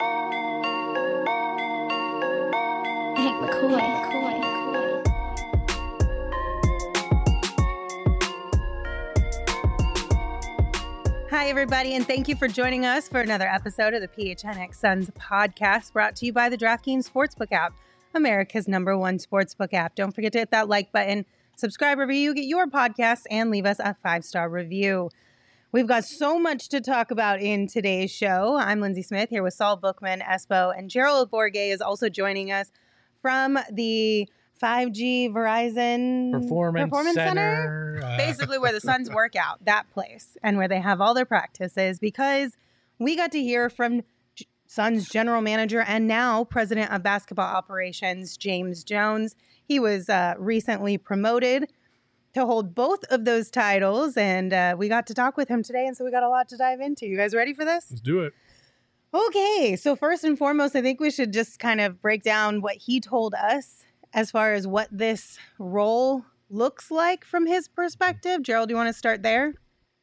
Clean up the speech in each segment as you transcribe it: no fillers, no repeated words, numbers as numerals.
Hank McCoy. Hi, everybody, and thank you for joining us for another episode of the PHNX Suns podcast, brought to you by the DraftKings Sportsbook app, America's #1 sportsbook app. Don't forget to hit that like button, subscribe, review, get your podcast, and leave us a 5-star review. We've got so much to talk about in today's show. I'm Lindsay Smith here with Saul Bookman, Espo, and Gerald Bourget is also joining us from the 5G Verizon Performance Center. Basically where the Suns work out, that place, and where they have all their practices, because we got to hear from Suns general manager and now president of basketball operations, James Jones. He was recently promoted to hold both of those titles, and we got to talk with him today, and so we got a lot to dive into. You guys ready for this? Let's do it. Okay, so first and foremost, I think we should just kind of break down what he told us as far as what this role looks like from his perspective. Gerald, do you want to start there?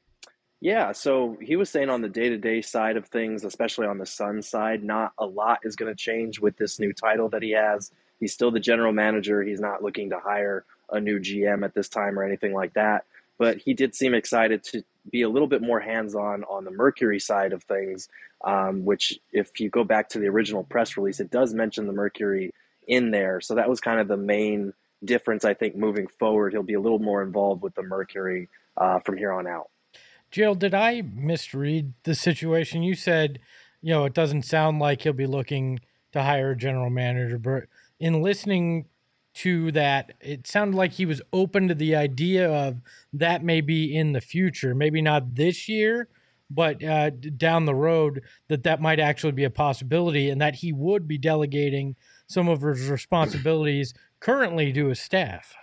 Yeah, so he was saying on the day-to-day side of things, especially on the Suns side, not a lot is going to change with this new title that he has. He's still the general manager. He's not looking to hire a new GM at this time or anything like that. But he did seem excited to be a little bit more hands-on on the Mercury side of things, which if you go back to the original press release, it does mention the Mercury in there. So that was kind of the main difference, I think, moving forward. He'll be a little more involved with the Mercury from here on out. Jill, did I misread the situation? You said, it doesn't sound like he'll be looking to hire a general manager, but in listening to that, it sounded like he was open to the idea of that maybe in the future, maybe not this year, but down the road, that might actually be a possibility, and that he would be delegating some of his responsibilities currently to his staff.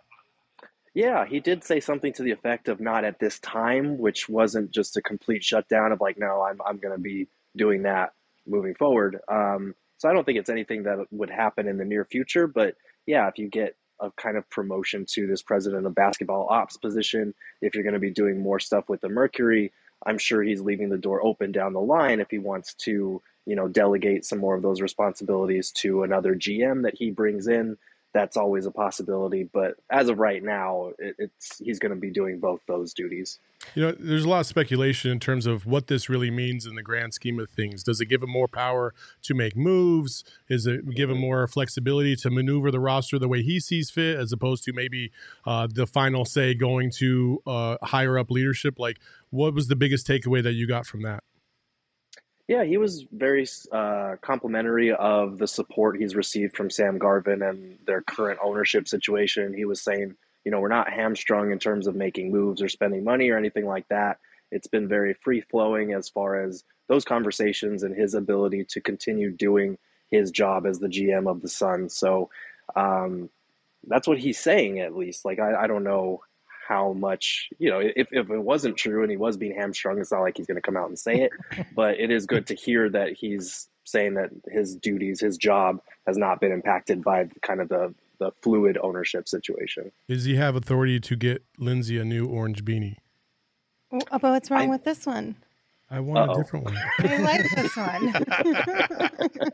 Yeah, he did say something to the effect of not at this time, which wasn't just a complete shutdown of like, no, I'm going to be doing that moving forward. So I don't think it's anything that would happen in the near future, but yeah, if you get a kind of promotion to this president of basketball ops position, if you're going to be doing more stuff with the Mercury, I'm sure he's leaving the door open down the line if he wants to, delegate some more of those responsibilities to another GM that he brings in. That's always a possibility. But as of right now, he's going to be doing both those duties. There's a lot of speculation in terms of what this really means in the grand scheme of things. Does it give him more power to make moves? Does it give him more flexibility to maneuver the roster the way he sees fit, as opposed to maybe the final say going to higher up leadership? Like, what was the biggest takeaway that you got from that? Yeah, he was very complimentary of the support he's received from Sam Garvin and their current ownership situation. He was saying, we're not hamstrung in terms of making moves or spending money or anything like that. It's been very free-flowing as far as those conversations and his ability to continue doing his job as the GM of the Suns. So that's what he's saying, at least. Like, I don't know how much, if it wasn't true and he was being hamstrung, it's not like he's going to come out and say it, but it is good to hear that he's saying that his duties, his job has not been impacted by kind of the fluid ownership situation. Does he have authority to get Lindsay a new orange beanie? But what's wrong with this one? I want a different one. I like this one.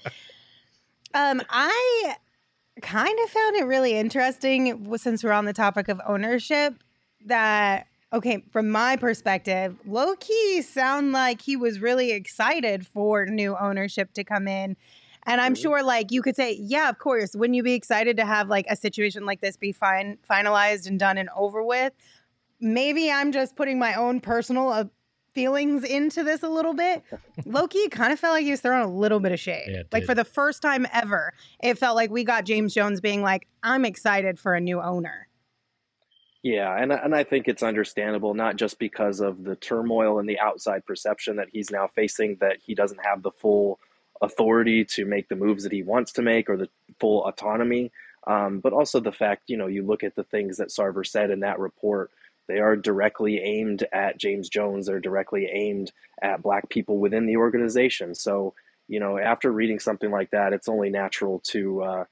I kind of found it really interesting, since we're on the topic of ownership, that, okay, from my perspective, low-key sound like he was really excited for new ownership to come in. And I'm sure, like, you could say, yeah, of course, wouldn't you be excited to have, like, a situation like this be finalized and done and over with? Maybe I'm just putting my own personal feelings into this a little bit. Low-key kind of felt like he was throwing a little bit of shade. Yeah, like, for the first time ever, it felt like we got James Jones being like, I'm excited for a new owner. Yeah, and I think it's understandable, not just because of the turmoil and the outside perception that he's now facing, that he doesn't have the full authority to make the moves that he wants to make or the full autonomy, but also the fact, you look at the things that Sarver said in that report. They are directly aimed at James Jones. They're directly aimed at Black people within the organization. So, after reading something like that, it's only natural to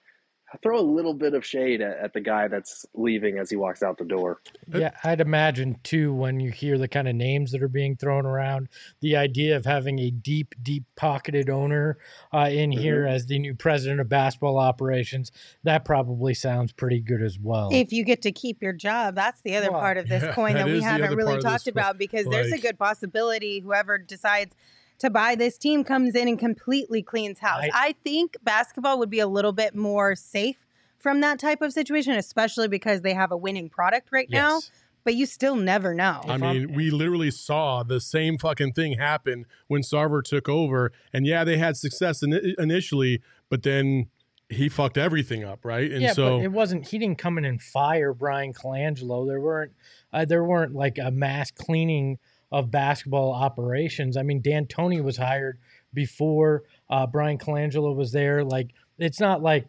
throw a little bit of shade at the guy that's leaving as he walks out the door. Yeah, I'd imagine too, when you hear the kind of names that are being thrown around, the idea of having a deep pocketed owner in here as the new president of basketball operations, that probably sounds pretty good as well. If you get to keep your job, that's the other part of this coin that we haven't really talked about, because there's a good possibility whoever decides to buy this team comes in and completely cleans house. I think basketball would be a little bit more safe from that type of situation, especially because they have a winning product right now. But you still never know. I mean, we literally saw the same fucking thing happen when Sarver took over. And yeah, they had success initially, but then he fucked everything up, right? And so but it wasn't. He didn't come in and fire Brian Colangelo. There weren't like a mass cleaning of basketball operations. I mean, D'Antoni was hired before Brian Colangelo was there. Like, it's not like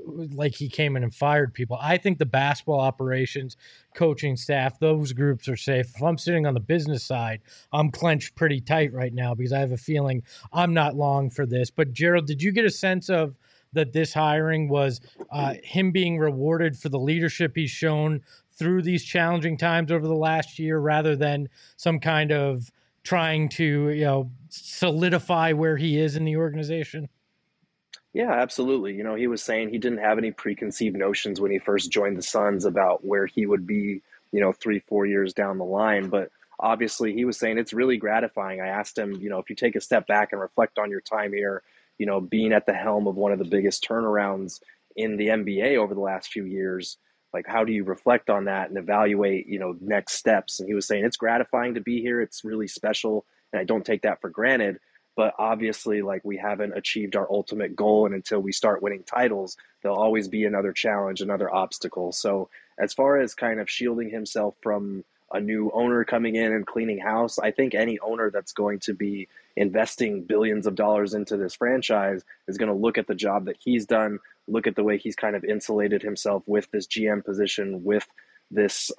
he came in and fired people. I think the basketball operations, coaching staff, those groups are safe. If I'm sitting on the business side, I'm clenched pretty tight right now because I have a feeling I'm not long for this. But Gerald, did you get a sense of that this hiring was him being rewarded for the leadership he's shown through these challenging times over the last year, rather than some kind of trying to, solidify where he is in the organization? Yeah, absolutely. He was saying he didn't have any preconceived notions when he first joined the Suns about where he would be, 3-4 years down the line. But obviously he was saying it's really gratifying. I asked him, if you take a step back and reflect on your time here, being at the helm of one of the biggest turnarounds in the NBA over the last few years, like, how do you reflect on that and evaluate, next steps? And he was saying it's gratifying to be here. It's really special. And I don't take that for granted. But obviously, like, we haven't achieved our ultimate goal. And until we start winning titles, there'll always be another challenge, another obstacle. So as far as kind of shielding himself from a new owner coming in and cleaning house, I think any owner that's going to be investing billions of dollars into this franchise is going to look at the job that he's done, look at the way he's kind of insulated himself with this GM position, with this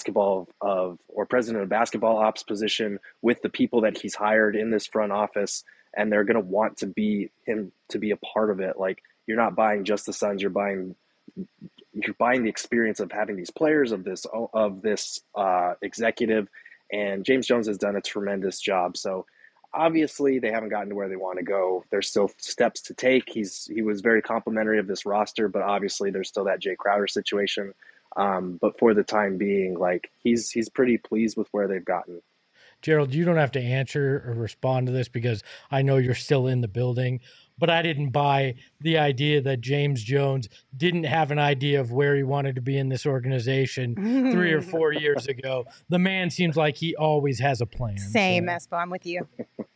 president of basketball ops position, with the people that he's hired in this front office, and they're going to want to be him to be a part of it. Like, you're not buying just the Suns, you're buying the experience of having these players, of this executive, and James Jones has done a tremendous job. So obviously they haven't gotten to where they want to go. There's still steps to take. He was very complimentary of this roster, but obviously there's still that Jay Crowder situation. But for the time being, like, he's pretty pleased with where they've gotten. Gerald, you don't have to answer or respond to this because I know you're still in the building, but I didn't buy the idea that James Jones didn't have an idea of where he wanted to be in this organization 3 or 4 years ago. The man seems like he always has a plan. Same, Espo, I'm with you.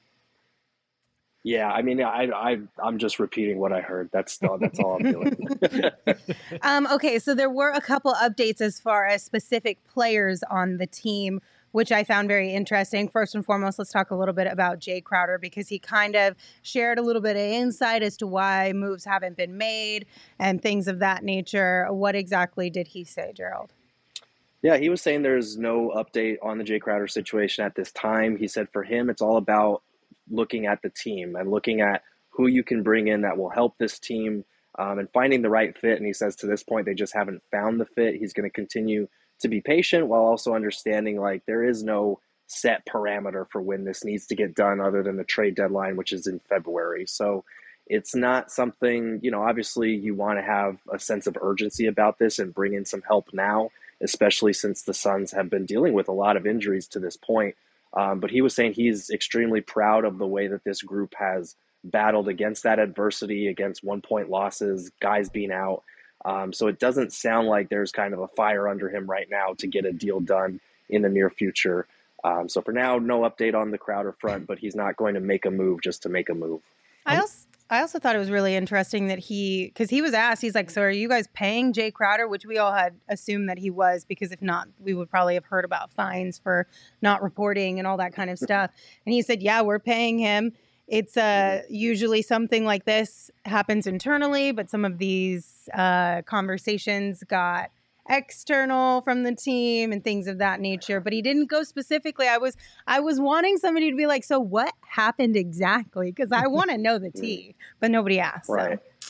Yeah, I mean, I'm just repeating what I heard. That's all I'm doing. Okay, so there were a couple updates as far as specific players on the team, which I found very interesting. First and foremost, let's talk a little bit about Jay Crowder, because he kind of shared a little bit of insight as to why moves haven't been made and things of that nature. What exactly did he say, Gerald? Yeah, he was saying there's no update on the Jay Crowder situation at this time. He said for him, it's all about looking at the team and looking at who you can bring in that will help this team, and finding the right fit. And he says to this point, they just haven't found the fit. He's going to continue to be patient while also understanding, like, there is no set parameter for when this needs to get done other than the trade deadline, which is in February. So it's not something, obviously you want to have a sense of urgency about this and bring in some help now, especially since the Suns have been dealing with a lot of injuries to this point. But he was saying he's extremely proud of the way that this group has battled against that adversity, against 1-point losses, guys being out. So it doesn't sound like there's kind of a fire under him right now to get a deal done in the near future. So for now, no update on the Crowder front, but he's not going to make a move just to make a move. I also thought it was really interesting that because he was asked, he's like, so are you guys paying Jay Crowder? Which we all had assumed that he was, because if not, we would probably have heard about fines for not reporting and all that kind of stuff. And he said, yeah, we're paying him. It's usually something like this happens internally, but some of these conversations got external from the team and things of that nature. But he didn't go specifically. I was wanting somebody to be like, so what happened exactly? Because I want to know the tea, but nobody asked. Right. So.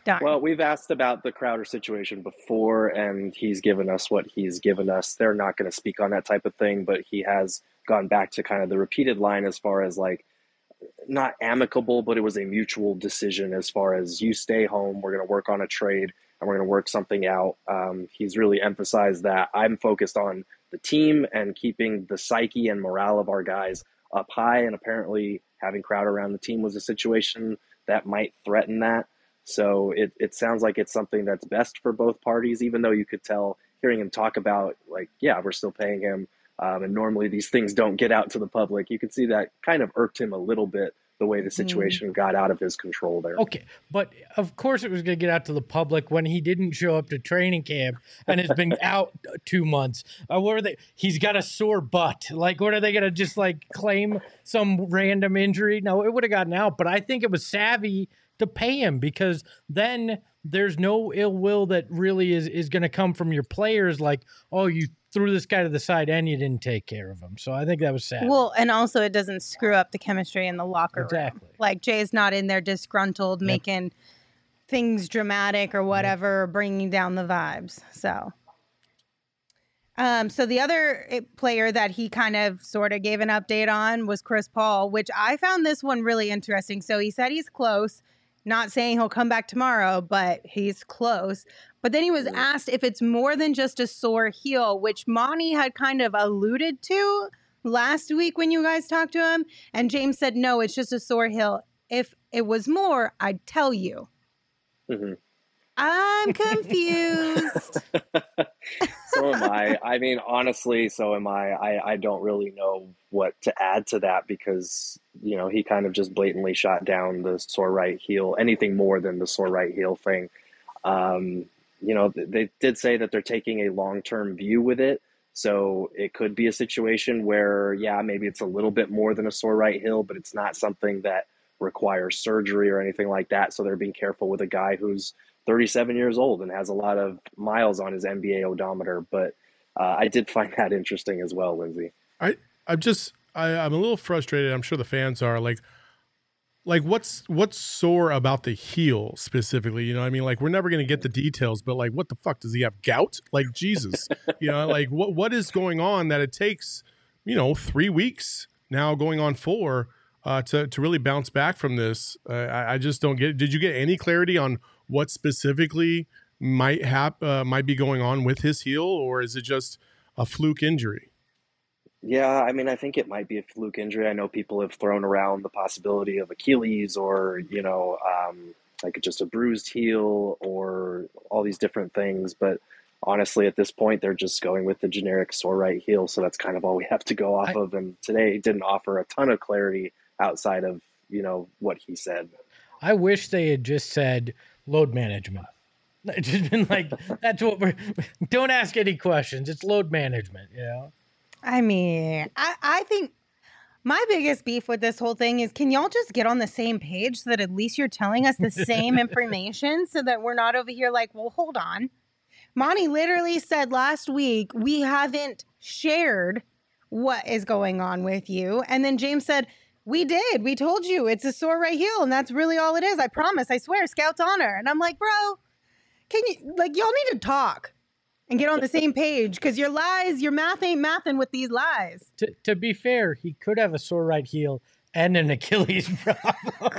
Darn. Well, we've asked about the Crowder situation before, and he's given us what he's given us. They're not going to speak on that type of thing, but he has gone back to kind of the repeated line as far as like, not amicable, but it was a mutual decision as far as you stay home, we're going to work on a trade, and we're going to work something out. He's really emphasized that I'm focused on the team and keeping the psyche and morale of our guys up high, and apparently having Crowder around the team was a situation that might threaten that. So it sounds like it's something that's best for both parties, even though you could tell hearing him talk about, like, yeah, we're still paying him. And normally these things don't get out to the public. You could see that kind of irked him a little bit, the way the situation got out of his control there. Okay, but of course it was going to get out to the public when he didn't show up to training camp and has been out 2 months. What are they? He's got a sore butt. Like, what are they going to just like claim some random injury? No, it would have gotten out, but I think it was savvy to pay him, because then there's no ill will that really is going to come from your players. Like, oh, you threw this guy to the side and you didn't take care of him. So I think that was sad. Well, and also it doesn't screw up the chemistry in the locker room. Exactly. Like, Jay's not in there disgruntled, making things dramatic or whatever, bringing down the vibes. So the other player that he kind of sort of gave an update on was Chris Paul, which I found this one really interesting. So he said he's close, not saying he'll come back tomorrow, but he's close. But then he was asked if it's more than just a sore heel, which Monty had kind of alluded to last week when you guys talked to him. And James said, no, it's just a sore heel. If it was more, I'd tell you. Mm-hmm. I'm confused. So am I. I mean, honestly, so am I. I don't really know what to add to that, because, you know, he kind of just blatantly shot down the sore right heel, anything more than the sore right heel thing. You know, they did say that they're taking a long-term view with it. So it could be a situation where, yeah, maybe it's a little bit more than a sore right heel, but it's not something that requires surgery or anything like that. So they're being careful with a guy who's 37 years old and has a lot of miles on his NBA odometer. But I did find that interesting as well, Lindsay. I'm a little frustrated. I'm sure the fans are like what's sore about the heel specifically? You know, I mean, like, we're never going to get the details, but like, what the fuck, does he have gout? Like, Jesus, you know, like what is going on that it takes, you know, 3 weeks now going on 4 to really bounce back from this? I just don't get it. Did you get any clarity on what specifically might be going on with his heel, or is it just a fluke injury? Yeah, I mean, I think it might be a fluke injury. I know people have thrown around the possibility of Achilles, or, you know, like just a bruised heel, or all these different things. But honestly, at this point, they're just going with the generic sore right heel. So that's kind of all we have to go off of. And today didn't offer a ton of clarity outside of, you know, what he said. I wish they had just said load management. It's just been like, that's what don't ask any questions. It's load management, you know? I mean, I think my biggest beef with this whole thing is, can y'all just get on the same page so that at least you're telling us the same information, so that we're not over here like, well, hold on. Monty literally said last week, we haven't shared what is going on with you. And then James said, we did. We told you it's a sore right heel, and that's really all it is. I promise. I swear. Scout's honor. And I'm like, bro, can you, like, y'all need to talk and get on the same page, because your lies, your math ain't mathing with these lies. To be fair, he could have a sore right heel and an Achilles problem.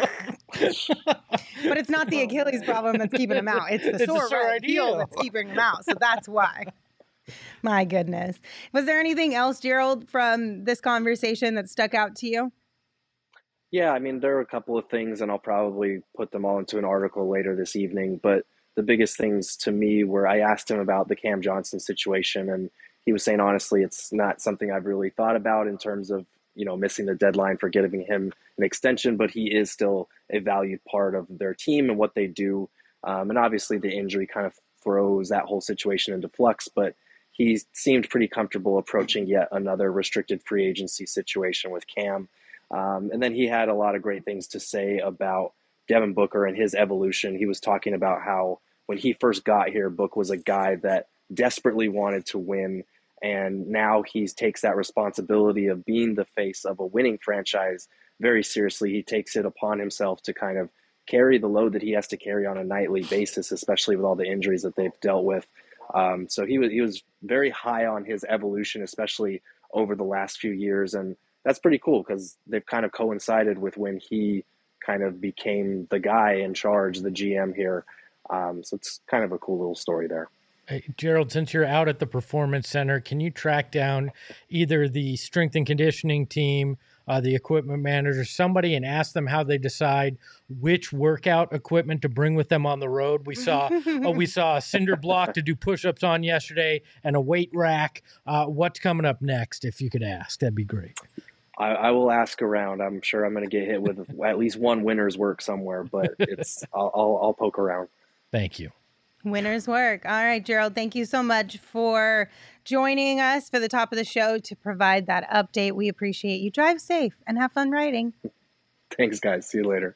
But it's not the Achilles problem that's keeping him out. It's the sore right heel that's keeping him out. So that's why. My goodness. Was there anything else, Gerald, from this conversation that stuck out to you? Yeah, I mean, there are a couple of things, and I'll probably put them all into an article later this evening. But the biggest things to me were, I asked him about the Cam Johnson situation, and he was saying, honestly, it's not something I've really thought about in terms of, you know, missing the deadline for giving him an extension, but he is still a valued part of their team and what they do. And obviously the injury kind of throws that whole situation into flux, but he seemed pretty comfortable approaching yet another restricted free agency situation with Cam. And then he had a lot of great things to say about Devin Booker and his evolution. He was talking about how when he first got here, Book was a guy that desperately wanted to win, and now he takes that responsibility of being the face of a winning franchise very seriously. He takes it upon himself to kind of carry the load that he has to carry on a nightly basis, especially with all the injuries that they've dealt with. So he was very high on his evolution, especially over the last few years. And that's pretty cool because they've kind of coincided with when he kind of became the guy in charge, the GM here. So it's kind of a cool little story there. Hey, Gerald, since you're out at the Performance Center, can you track down either the strength and conditioning team, the equipment manager, somebody, and ask them how they decide which workout equipment to bring with them on the road? We saw a cinder block to do push-ups on yesterday and a weight rack. What's coming up next? If you could ask, that'd be great. I will ask around. I'm sure I'm going to get hit with at least one winner's work somewhere, but I'll poke around. Thank you. Winner's work. All right, Gerald, thank you so much for joining us for the top of the show to provide that update. We appreciate you. Drive safe and have fun riding. Thanks, guys. See you later.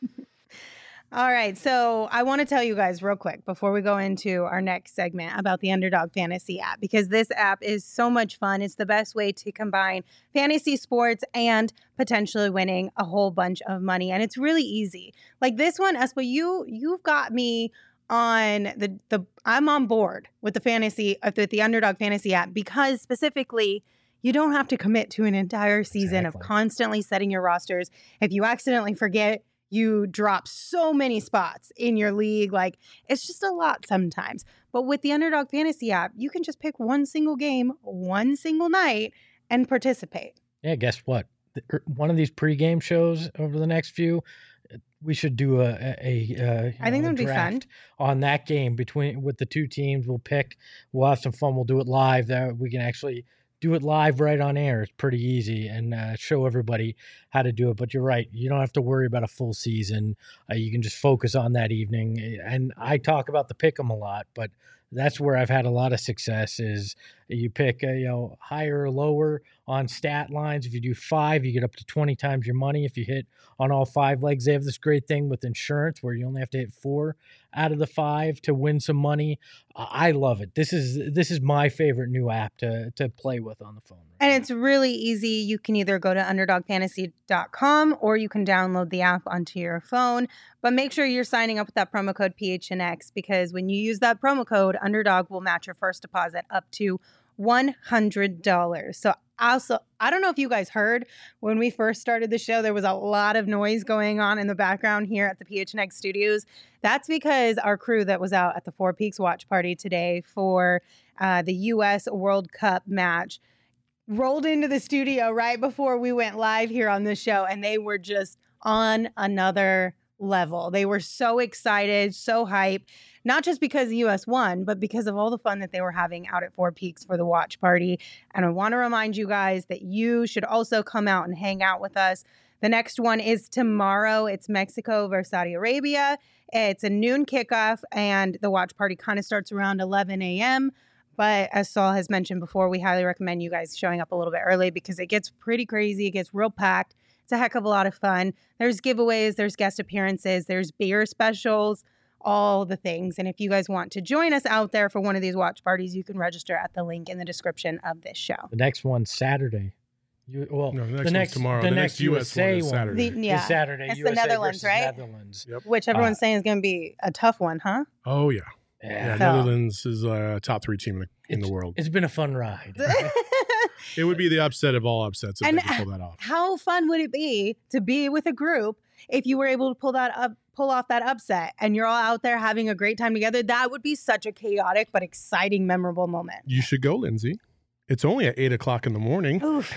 All right, so I want to tell you guys real quick before we go into our next segment about the Underdog Fantasy app, because this app is so much fun. It's the best way to combine fantasy sports and potentially winning a whole bunch of money. And it's really easy. Like this one, Espa, you've got me on I'm on board with the Underdog Fantasy app because specifically you don't have to commit to an entire season of constantly setting your rosters. If you accidentally forget, you drop so many spots in your league. Like, it's just a lot sometimes. But with the Underdog Fantasy app, you can just pick one single game, one single night, and participate. Yeah, guess what? One of these pregame shows over the next few, we should do I think that would be fun on that game with the two teams. We'll have some fun. We'll do it live. That we can actually do it live right on air. It's pretty easy and show everybody how to do it. But you're right. You don't have to worry about a full season. You can just focus on that evening. And I talk about the pick'em a lot, but that's where I've had a lot of success is you pick higher or lower on stat lines. If you do 5, you get up to 20 times your money. If you hit on all 5 legs, they have this great thing with insurance where you only have to hit 4 out of the 5 to win some money. I love it. This is my favorite new app to play with on the phone. And it's really easy. You can either go to underdogfantasy.com or you can download the app onto your phone. But make sure you're signing up with that promo code PHNX because when you use that promo code, Underdog will match your first deposit up to $100. So also, I don't know if you guys heard when we first started the show, there was a lot of noise going on in the background here at the PHNX studios. That's because our crew that was out at the Four Peaks watch party today for the U.S. World Cup match rolled into the studio right before we went live here on the show, and they were just on another level. They were so excited, so hyped, not just because the U.S. won, but because of all the fun that they were having out at Four Peaks for the watch party. And I want to remind you guys that you should also come out and hang out with us. The next one is tomorrow. It's Mexico versus Saudi Arabia. It's a noon kickoff, and the watch party kind of starts around 11 a.m., but as Saul has mentioned before, we highly recommend you guys showing up a little bit early because it gets pretty crazy. It gets real packed. It's a heck of a lot of fun. There's giveaways, there's guest appearances, there's beer specials, all the things. And if you guys want to join us out there for one of these watch parties, you can register at the link in the description of this show. The next one's Saturday. The next one's tomorrow. The next US one is Saturday. It's Saturday. It's USA the Netherlands, right? Netherlands. Yep. Which everyone's saying is going to be a tough one, huh? Oh, yeah. Yeah. Netherlands is a top 3 team in the world. It's been a fun ride. It would be the upset of all upsets if they could pull that off. How fun would it be to be with a group if you were able to pull off that upset and you're all out there having a great time together? That would be such a chaotic but exciting, memorable moment. You should go, Lindsay. It's only at 8 o'clock in the morning. Oof.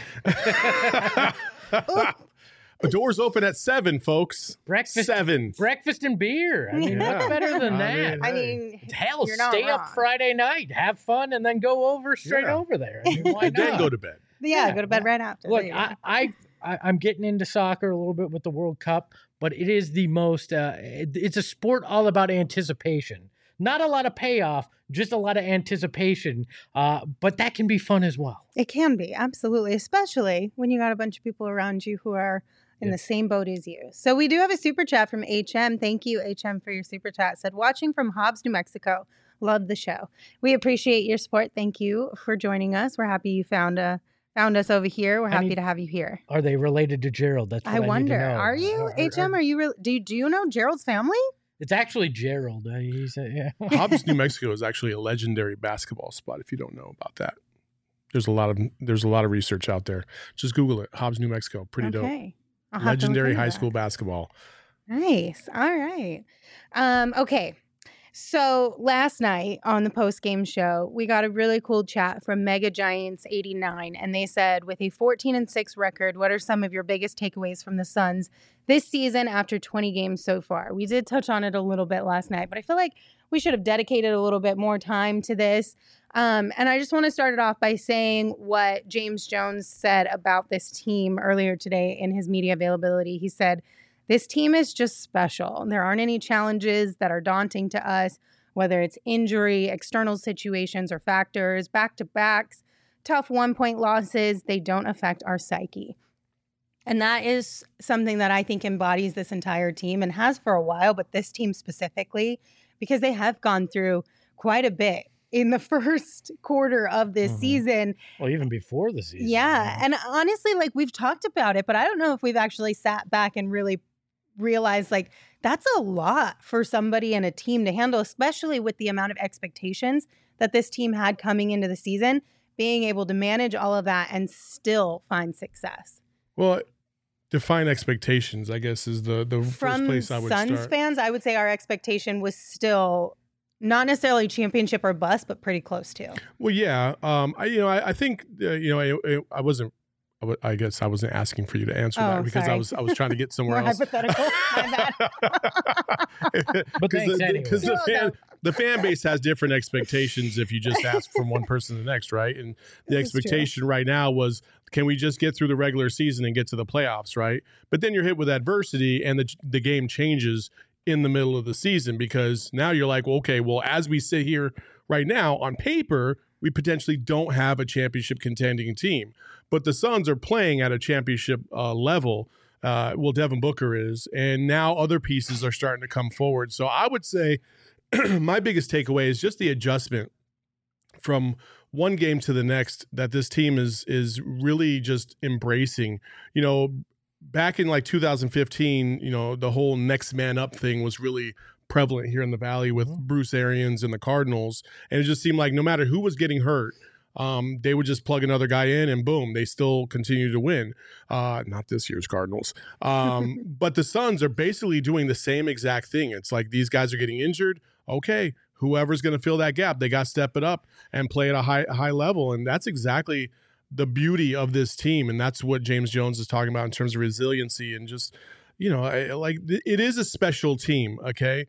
The doors open at 7, folks. Breakfast 7. Breakfast and beer. I mean, what's better than that? I mean, hell, you're not stay wrong. up Friday night, have fun, and then go over straight over there. I mean, why And then not? go to bed. Yeah, go to bed right after. Look, There you go. I'm getting into soccer a little bit with the World Cup, but it is the most. It's a sport all about anticipation. Not a lot of payoff, just a lot of anticipation. But that can be fun as well. It can be, absolutely, especially when you got a bunch of people around you who are in the same boat as you. So we do have a super chat from HM. Thank you, HM, for your super chat. Said, watching from Hobbs, New Mexico. Love the show. We appreciate your support. Thank you for joining us. We're happy you found a found us over here. We're happy to have you here. Are they related to Gerald? That's what I wonder. need to know. Are you, HM? Are you do you know Gerald's family? It's actually Gerald. He said, yeah. Hobbs, New Mexico is actually a legendary basketball spot. If you don't know about that, there's a lot of research out there. Just Google it. Hobbs, New Mexico. Pretty dope. Legendary high school basketball. Nice. All right. Okay. So last night on the post-game show, we got a really cool chat from Mega Giants 89, and they said, with a 14-6 record, what are some of your biggest takeaways from the Suns this season after 20 games so far? We did touch on it a little bit last night, but I feel like we should have dedicated a little bit more time to this. And I just want to start it off by saying what James Jones said about this team earlier today in his media availability. He said, "This team is just special. There aren't any challenges that are daunting to us, whether it's injury, external situations, or factors, back-to-backs, tough one-point losses. They don't affect our psyche." And that is something that I think embodies this entire team and has for a while, but this team specifically, because they have gone through quite a bit in the first quarter of this season. Well, even before the season. Yeah. And honestly, like, we've talked about it, but I don't know if we've actually sat back and really realized, like, that's a lot for somebody and a team to handle, especially with the amount of expectations that this team had coming into the season, being able to manage all of that and still find success. Well, define expectations, I guess, is the first place I would start. From Suns fans, I would say our expectation was still not necessarily championship or bust, but pretty close to. Well, yeah. I think I wasn't. I guess I wasn't asking for you to answer that because I was trying to get somewhere else. Hypothetical. My bad. Because the fan base has different expectations if you just ask from one person to the next, right? And the expectation right now was, can we just get through the regular season and get to the playoffs, right? But then you're hit with adversity and the game changes in the middle of the season, because now you're like, well, okay, well, as we sit here right now on paper, we potentially don't have a championship contending team, but the Suns are playing at a championship level. Well, Devin Booker is, and now other pieces are starting to come forward. So I would say my biggest takeaway is just the adjustment from one game to the next that this team is really just embracing. You know, back in like 2015, you know, the whole next man up thing was really prevalent here in the Valley with Bruce Arians and the Cardinals. And it just seemed like no matter who was getting hurt, they would just plug another guy in and boom, they still continue to win. Not this year's Cardinals. But the Suns are basically doing the same exact thing. It's like these guys are getting injured. Okay, whoever's going to fill that gap, they got to step it up and play at a high level. And that's exactly the beauty of this team. And that's what James Jones is talking about in terms of resiliency and just, you know, it is a special team. Okay.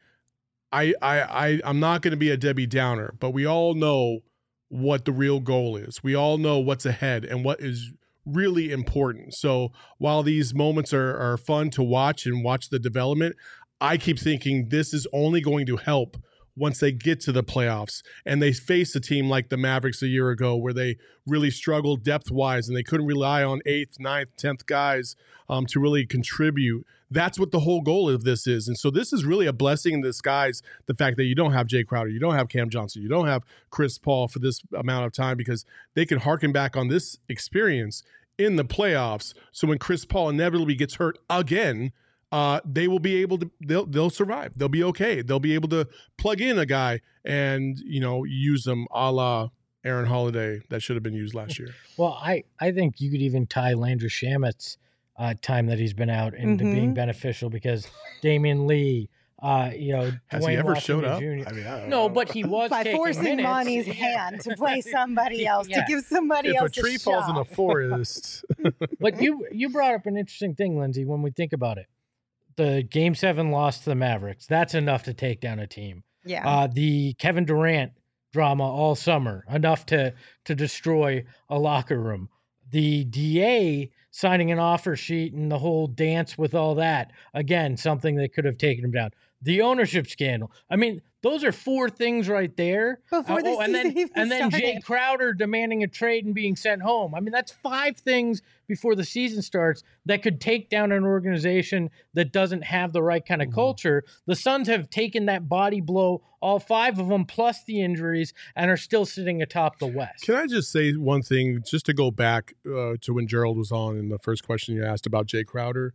I'm not going to be a Debbie Downer, but we all know what the real goal is. We all know what's ahead and what is really important. So while these moments are fun to watch and watch the development, I keep thinking this is only going to help once they get to the playoffs and they face a team like the Mavericks a year ago where they really struggled depth-wise and they couldn't rely on 8th, 9th, 10th guys to really contribute. That's what the whole goal of this is. And so this is really a blessing in disguise, the fact that you don't have Jay Crowder, you don't have Cam Johnson, you don't have Chris Paul for this amount of time, because they can harken back on this experience in the playoffs. So when Chris Paul inevitably gets hurt again, they will be able to, they'll survive. They'll be okay. They'll be able to plug in a guy and, you know, use them a la Aaron Holiday that should have been used last year. Well, I think you could even tie Landry Shamet's time that he's been out into being beneficial, because Damian Lee, has Dwayne he ever Washington showed up? Jr. I mean, I don't No, know. but he was By taking forcing minutes. Monty's hand to play somebody else, to give somebody if else a tree falls in a forest. But you brought up an interesting thing, Lindsay, when we think about it. The Game 7 loss to the Mavericks, that's enough to take down a team. Yeah. The Kevin Durant drama all summer, enough to destroy a locker room. The DA signing an offer sheet and the whole dance with all that, again, something that could have taken him down. the ownership scandal. I mean, those are 4 things right there. Before the season even then Jay started. Crowder demanding a trade and being sent home. I mean, that's 5 things before the season starts that could take down an organization that doesn't have the right kind of culture. The Suns have taken that body blow, all 5 of them, plus the injuries, and are still sitting atop the West. Can I just say one thing, just to go back to when Gerald was on in the first question you asked about Jay Crowder?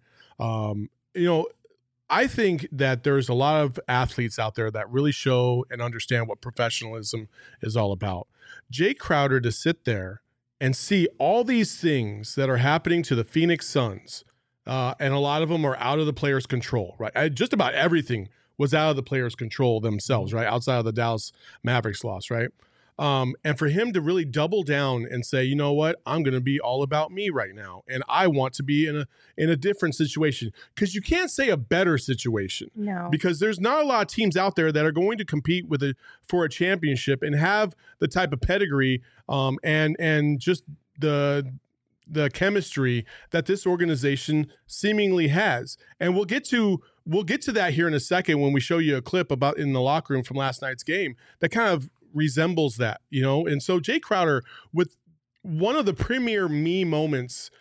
I think that there's a lot of athletes out there that really show and understand what professionalism is all about. Jay Crowder, to sit there and see all these things that are happening to the Phoenix Suns, and a lot of them are out of the players' control, right? Just about everything was out of the players' control themselves, right? Outside of the Dallas Mavericks loss, right? And for him to really double down and say, you know what, I'm going to be all about me right now, and I want to be in a different situation, because you can't say a better situation, No. because there's not a lot of teams out there that are going to compete for a championship and have the type of pedigree and just the chemistry that this organization seemingly has. And we'll get to that here in a second when we show you a clip about in the locker room from last night's game that kind of resembles that, And so Jay Crowder, with one of the premier me moments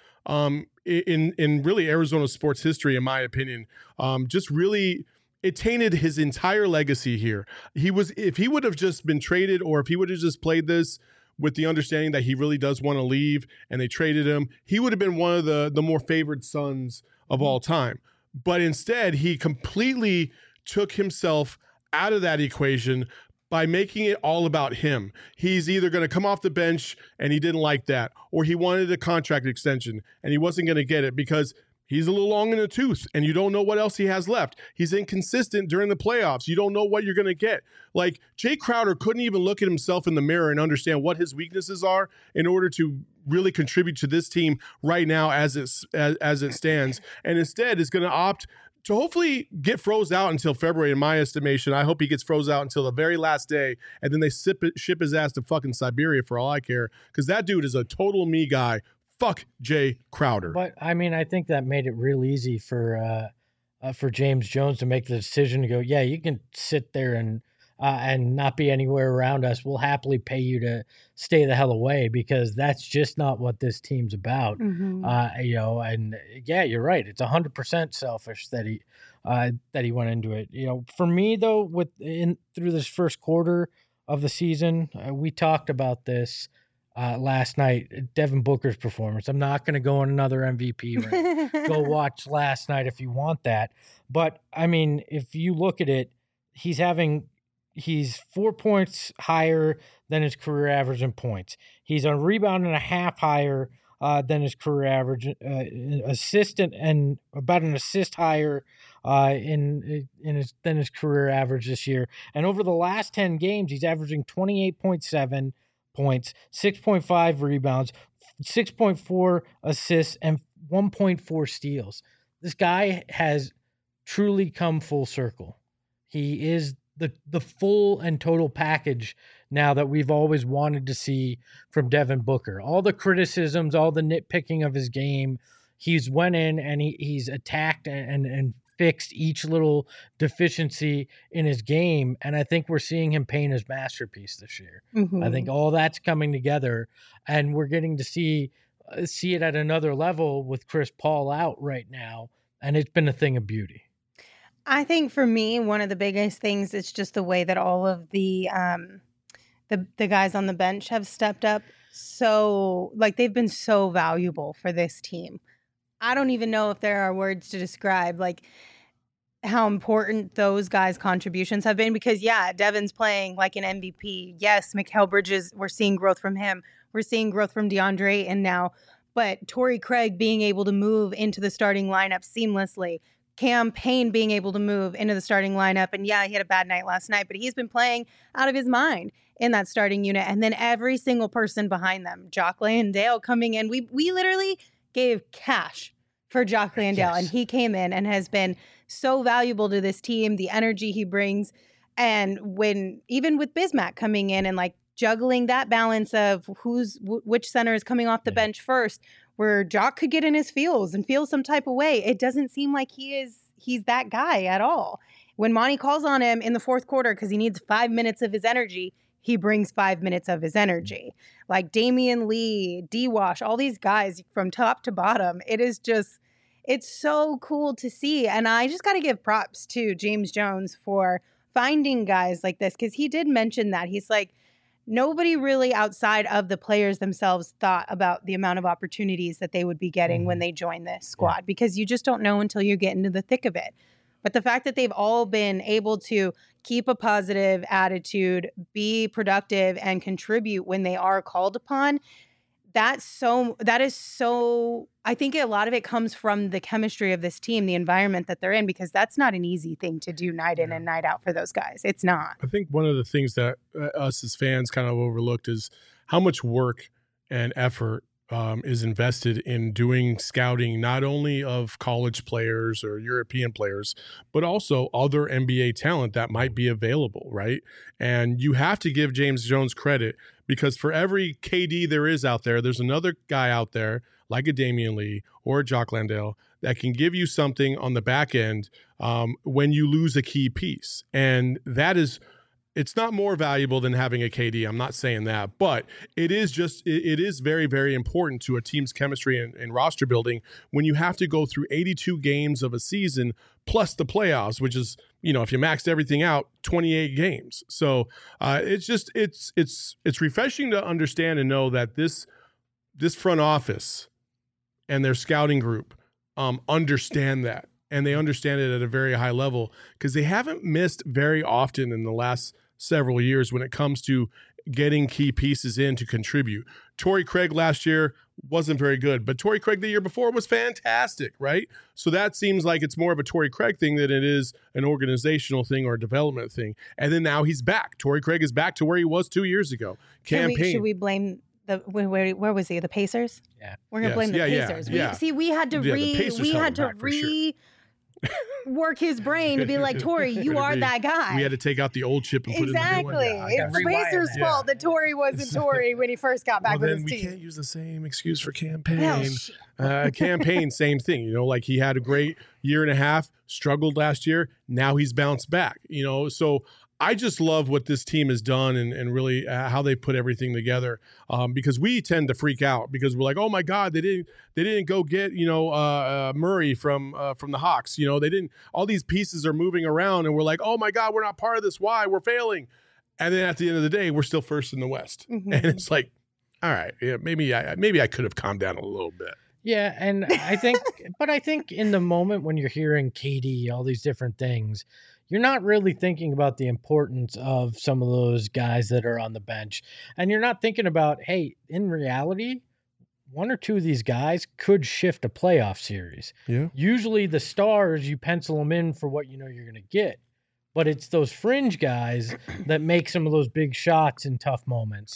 in really Arizona sports history, in my opinion, just really, it tainted his entire legacy here. If he would have just been traded, or if he would have just played this with the understanding that he really does want to leave and they traded him, he would have been one of the more favored Suns of all time. But instead, he completely took himself out of that equation by making it all about him. He's either going to come off the bench, and he didn't like that, or he wanted a contract extension and he wasn't going to get it because he's a little long in the tooth and you don't know what else he has left. He's inconsistent during the playoffs. You don't know what you're going to get. Like, Jay Crowder couldn't even look at himself in the mirror and understand what his weaknesses are in order to really contribute to this team right now as it stands. And instead is going to opt to hopefully get froze out until February, in my estimation. I hope he gets froze out until the very last day, and then they ship his ass to fucking Siberia for all I care, because that dude is a total me guy. Fuck Jay Crowder. But, I mean, I think that made it real easy for James Jones to make the decision to go, yeah, you can sit there and not be anywhere around us. We'll happily pay you to stay the hell away, because that's just not what this team's about. Mm-hmm. And yeah, you're right. It's 100% selfish that he went into it. For me though, through this first quarter of the season, we talked about this last night, Devin Booker's performance. I'm not going to go on another MVP rant. Go watch last night if you want that. But I mean, if you look at it, he's 4 points higher than his career average in points. He's a rebound and a half higher than his career average, and about an assist higher than his career average this year. And over the last 10 games, he's averaging 28.7 points, 6.5 rebounds, 6.4 assists, and 1.4 steals. This guy has truly come full circle. He is the full and total package now that we've always wanted to see from Devin Booker. All the criticisms, all the nitpicking of his game, he's went in and he's attacked and fixed each little deficiency in his game. And I think we're seeing him paint his masterpiece this year. Mm-hmm. I think all that's coming together, and we're getting to see it at another level with Chris Paul out right now. And it's been a thing of beauty. I think for me, one of the biggest things is just the way that all of the guys on the bench have stepped up. So, like, they've been so valuable for this team. I don't even know if there are words to describe, like, how important those guys' contributions have been, because, yeah, Devin's playing like an MVP. Yes, Mikal Bridges, we're seeing growth from him. We're seeing growth from DeAndre and now. But Torrey Craig being able to move into the starting lineup seamlessly. Cam Payne being able to move into the starting lineup. And yeah, he had a bad night last night, but he's been playing out of his mind in that starting unit. And then every single person behind them, Jock Landale coming in. We literally gave cash for Jock Landale. Yes. And he came in and has been so valuable to this team, the energy he brings. And even with Bismack coming in and like juggling that balance of which center is coming off the bench first, where Jock could get in his feels and feel some type of way. It doesn't seem like he's that guy at all. When Monty calls on him in the fourth quarter because he needs 5 minutes of his energy, he brings 5 minutes of his energy. Like Damian Lee, D-Wash, all these guys from top to bottom. It is just, it's so cool to see. And I just got to give props to James Jones for finding guys like this, because he did mention that. He's like, nobody really outside of the players themselves thought about the amount of opportunities that they would be getting when they join this squad, because you just don't know until you get into the thick of it. But the fact that they've all been able to keep a positive attitude, be productive, and contribute when they are called upon, that is so, I think a lot of it comes from the chemistry of this team, the environment that they're in, because that's not an easy thing to do night in and night out for those guys. It's not. I think one of the things that us as fans kind of overlooked is how much work and effort is invested in doing scouting, not only of college players or European players, but also other NBA talent that might be available, right? And you have to give James Jones credit, because for every KD there is out there, there's another guy out there like a Damian Lee or a Jock Landale that can give you something on the back end when you lose a key piece. And that is, it's not more valuable than having a KD. I'm not saying that, but it is very, very important to a team's chemistry and roster building when you have to go through 82 games of a season plus the playoffs, which is, if you maxed everything out, 28 games. So it's refreshing to understand and know that this front office and their scouting group understand that. And they understand it at a very high level, because they haven't missed very often in the last several years when it comes to getting key pieces in to contribute. Torrey Craig last year wasn't very good, but Torrey Craig the year before was fantastic, right? So that seems like it's more of a Torrey Craig thing than it is an organizational thing or a development thing. And then now he's back. Torrey Craig is back to where he was 2 years ago. Should we blame where was he? The Pacers? Yeah. We're going to blame the Pacers. We had to work his brain to be like, Torrey, you are that guy. We had to take out the old chip and put it in the new one. It's the Pacers' fault that Torrey wasn't Torrey when he first got back with his team. We can't use the same excuse for Campaign. Campaign, same thing. Like he had a great year and a half, struggled last year. Now he's bounced back. So I just love what this team has done and really how they put everything together, because we tend to freak out because we're like, oh my God, they didn't go get Murray from the Hawks. They didn't. All these pieces are moving around, and we're like, oh my God, we're not part of this. Why? We're failing. And then at the end of the day, we're still first in the West, and it's like, all right, maybe I could have calmed down a little bit. Yeah, and I think in the moment when you're hearing KD, all these different things, you're not really thinking about the importance of some of those guys that are on the bench. And you're not thinking about, hey, in reality, one or two of these guys could shift a playoff series. Yeah. Usually the stars, you pencil them in for what you're going to get. But it's those fringe guys that make some of those big shots in tough moments,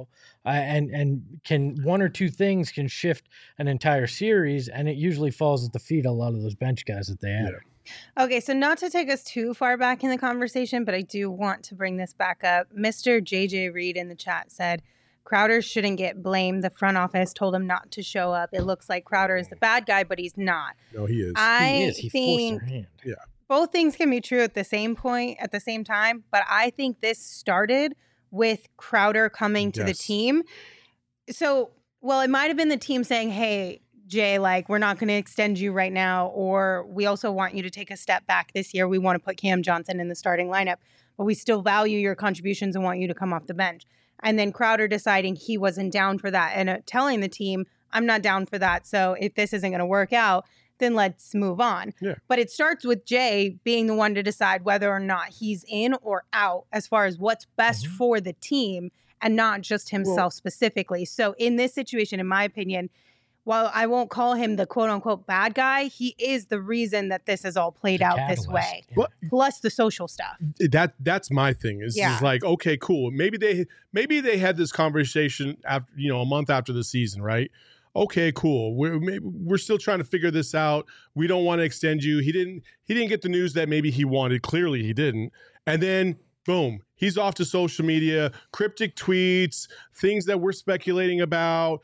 and can one or two things can shift an entire series, and it usually falls at the feet of a lot of those bench guys that they have. Yeah. Okay, so not to take us too far back in the conversation, but I do want to bring this back up. Mr. JJ Reed in the chat said, Crowder shouldn't get blamed. The front office told him not to show up. It looks like Crowder is the bad guy, but he's not. No, he is. He is. He forced their hand. Yeah. Both things can be true at the same point, at the same time, but I think this started with Crowder coming to the team. So, it might have been the team saying, hey, Jay, we're not going to extend you right now, or we also want you to take a step back this year. We want to put Cam Johnson in the starting lineup, but we still value your contributions and want you to come off the bench. And then Crowder deciding he wasn't down for that and telling the team, I'm not down for that. So if this isn't going to work out, then let's move on. Yeah. But it starts with Jay being the one to decide whether or not he's in or out as far as what's best for the team and not just himself specifically. So in this situation, in my opinion, while I won't call him the quote unquote bad guy, he is the reason that this has all played out this way. Yeah. Plus the social stuff. That's my thing. Is like, okay, cool. Maybe they had this conversation after, a month after the season, right? Okay, cool. We're still trying to figure this out. We don't want to extend you. He didn't get the news that maybe he wanted. Clearly he didn't. And then boom, he's off to social media, cryptic tweets, things that we're speculating about.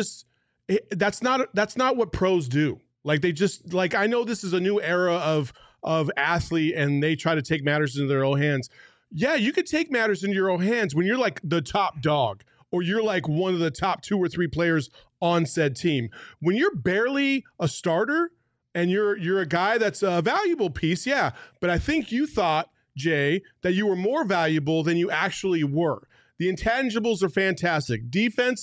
That's not what pros do. Like they just I know this is a new era of athlete and they try to take matters into their own hands. Yeah, you could take matters into your own hands when you're like the top dog or you're like one of the top 2 or 3 players on said team. When you're barely a starter and you're a guy that's a valuable piece, yeah. But I think you thought, Jay, that you were more valuable than you actually were. The intangibles are fantastic. Defense,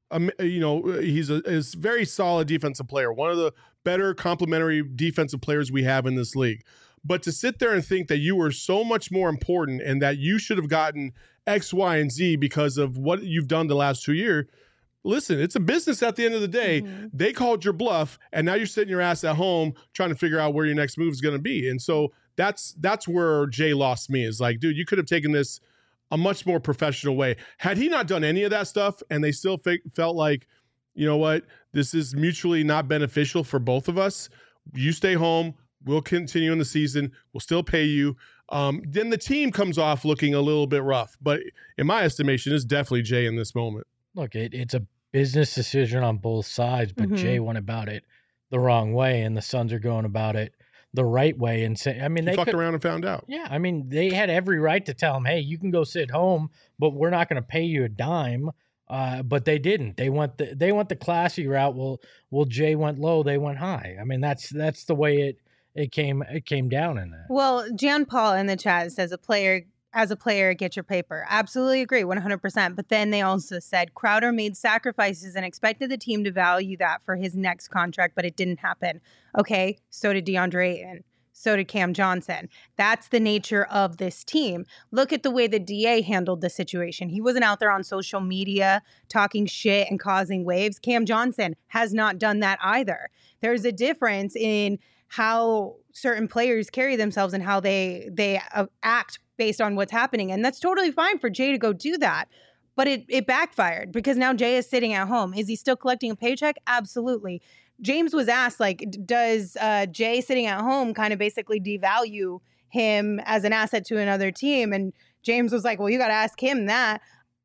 he's a very solid defensive player, one of the better complementary defensive players we have in this league. But to sit there and think that you were so much more important and that you should have gotten X, Y, and Z because of what you've done the last 2 years, listen, it's a business at the end of the day. Mm-hmm. They called your bluff, and now you're sitting your ass at home trying to figure out where your next move is going to be. And so that's where Jay lost me, is like, dude, you could have taken this a much more professional way. Had he not done any of that stuff and they still felt like, you know what, this is mutually not beneficial for both of us, you stay home, we'll continue in the season, we'll still pay you. Then the team comes off looking a little bit rough. But in my estimation, it's definitely Jay in this moment. Look, it's a business decision on both sides, but Jay went about it the wrong way, and the Suns are going about it the right way. And say, I mean, they fucked around and found out. Yeah, I mean, they had every right to tell him, "Hey, you can go sit home, but we're not going to pay you a dime." But they didn't. They went the classy route. Well, Jay went low, they went high. I mean, that's the way it came down in that. Well, Jan Paul in the chat says as a player, get your paper. Absolutely agree, 100%. But then they also said Crowder made sacrifices and expected the team to value that for his next contract, but it didn't happen. Okay, so did DeAndre Ayton. So did Cam Johnson. That's the nature of this team. Look at the way the DA handled the situation. He wasn't out there on social media talking shit and causing waves. Cam Johnson has not done that either. There's a difference in how certain players carry themselves and how they act based on what's happening. And that's totally fine for Jay to go do that. But it backfired because now Jay is sitting at home. Is he still collecting a paycheck? Absolutely. James was asked, like, does Jay sitting at home kind of basically devalue him as an asset to another team? And James was like, well, you got to ask him that.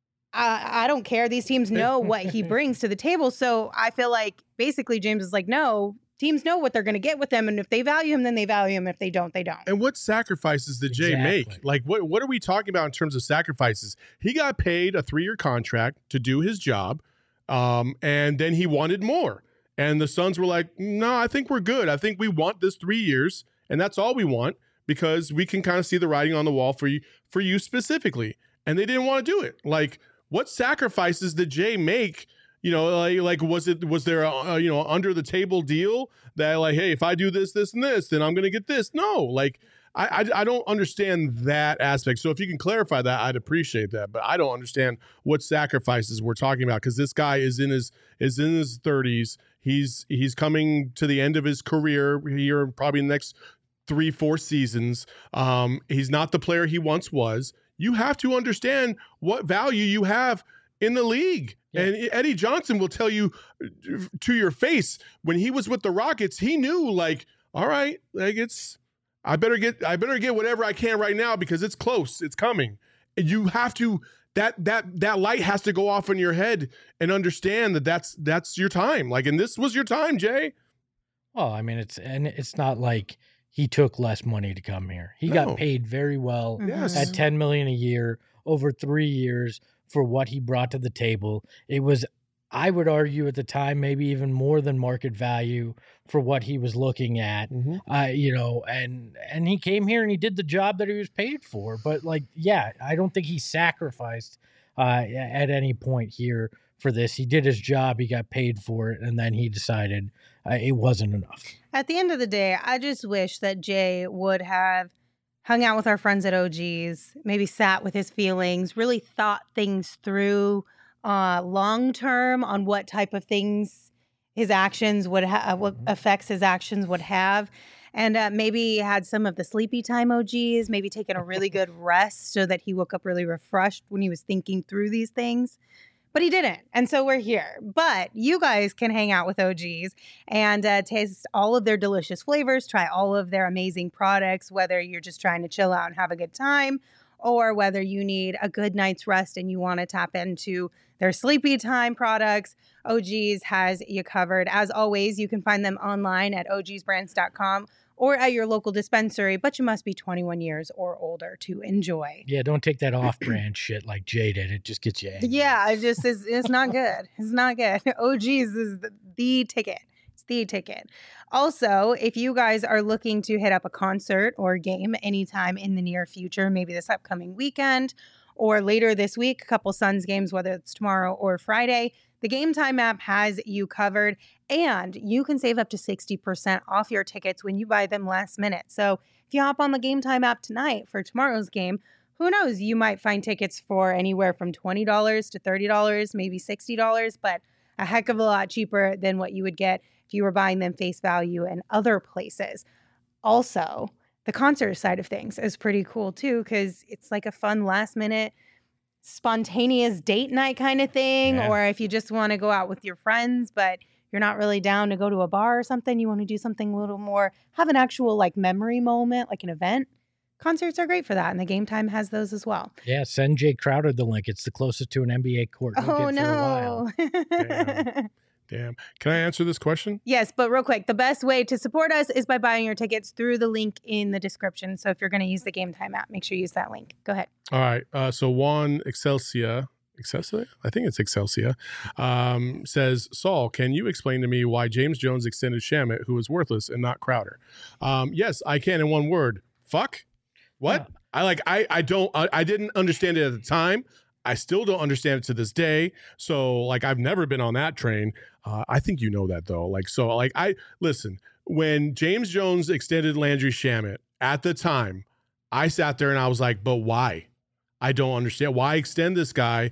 I don't care. These teams know what he brings to the table. So I feel like basically James is like, no, teams know what they're going to get with them. And if they value him, then they value him. If they don't, they don't. And what sacrifices did Jay make? Like, what are we talking about in terms of sacrifices? He got paid a 3-year contract to do his job. And then he wanted more. And the Suns were like, no, I think we're good. I think we want this 3 years. And that's all we want because we can kind of see the writing on the wall for you specifically. And they didn't want to do it. Like, what sacrifices did Jay make? You know, like was there a under the table deal that like, hey, if I do this, this, and this, then I'm going to get this? No, like I don't understand that aspect. So if you can clarify that, I'd appreciate that. But I don't understand what sacrifices we're talking about because this guy is in his 30s. He's coming to the end of his career here, probably in the next 3-4 seasons. He's not the player he once was. You have to understand what value you have in the league. Yeah. And Eddie Johnson will tell you to your face when he was with the Rockets, he knew like, all right, like I better get whatever I can right now because it's close. It's coming. And you have to, that light has to go off in your head and understand that's your time. Like, and this was your time, Jay. Well, I mean, it's not like he took less money to come here. He got paid very well at $10 million a year over 3 years for what he brought to the table. It was, I would argue at the time, maybe even more than market value for what he was looking at, and he came here and he did the job that he was paid for. But like, yeah, I don't think he sacrificed at any point here for this. He did his job, he got paid for it, and then he decided it wasn't enough. At the end of the day, I just wish that Jay would have hung out with our friends at OG's, maybe sat with his feelings, really thought things through long term on what type of things his actions would have, what effects his actions would have. And maybe had some of the sleepy time OGs, maybe taken a really good rest so that he woke up really refreshed when he was thinking through these things. But he didn't. And so we're here. But you guys can hang out with OGs and taste all of their delicious flavors, try all of their amazing products, whether you're just trying to chill out and have a good time, or whether you need a good night's rest and you want to tap into their sleepy time products. OGs has you covered. As always, you can find them online at ogsbrands.com or at your local dispensary, but you must be 21 years or older to enjoy. Yeah, don't take that off-brand shit like Jay did. It just gets you angry. Yeah, it's not good. It's not good. OG's is the ticket. It's the ticket. Also, if you guys are looking to hit up a concert or game anytime in the near future, maybe this upcoming weekend or later this week, a couple Suns games, whether it's tomorrow or Friday, the Game Time app has you covered, and you can save up to 60% off your tickets when you buy them last minute. So if you hop on the Game Time app tonight for tomorrow's game, who knows, you might find tickets for anywhere from $20 to $30, maybe $60, but a heck of a lot cheaper than what you would get if you were buying them face value in other places. Also, the concert side of things is pretty cool too, because it's like a fun last minute spontaneous date night kind of thing. Yeah. Or if you just want to go out with your friends, but you're not really down to go to a bar or something, you want to do something a little more, have an actual like memory moment, like an event. Concerts are great for that, and the Game Time has those as well. Yeah, send Jay Crowder the link. It's the closest to an NBA court you'll Oh, get for a while. no. Damn. Can I answer this question? Yes, but real quick, the best way to support us is by buying your tickets through the link in the description. So if you're going to use the Game Time app, make sure you use that link. Go ahead. All right. So Juan Excelsia, I think it's Excelsia, says, Saul, can you explain to me why James Jones extended Shamet, who is worthless, and not Crowder? Yes, I can in one word. Fuck. What? Yeah. I didn't understand it at the time. I still don't understand it to this day. So like, I've never been on that train. I think you know that though. Listen, when James Jones extended Landry Shamet at the time, I sat there and I was like, but why? I don't understand. Why extend this guy?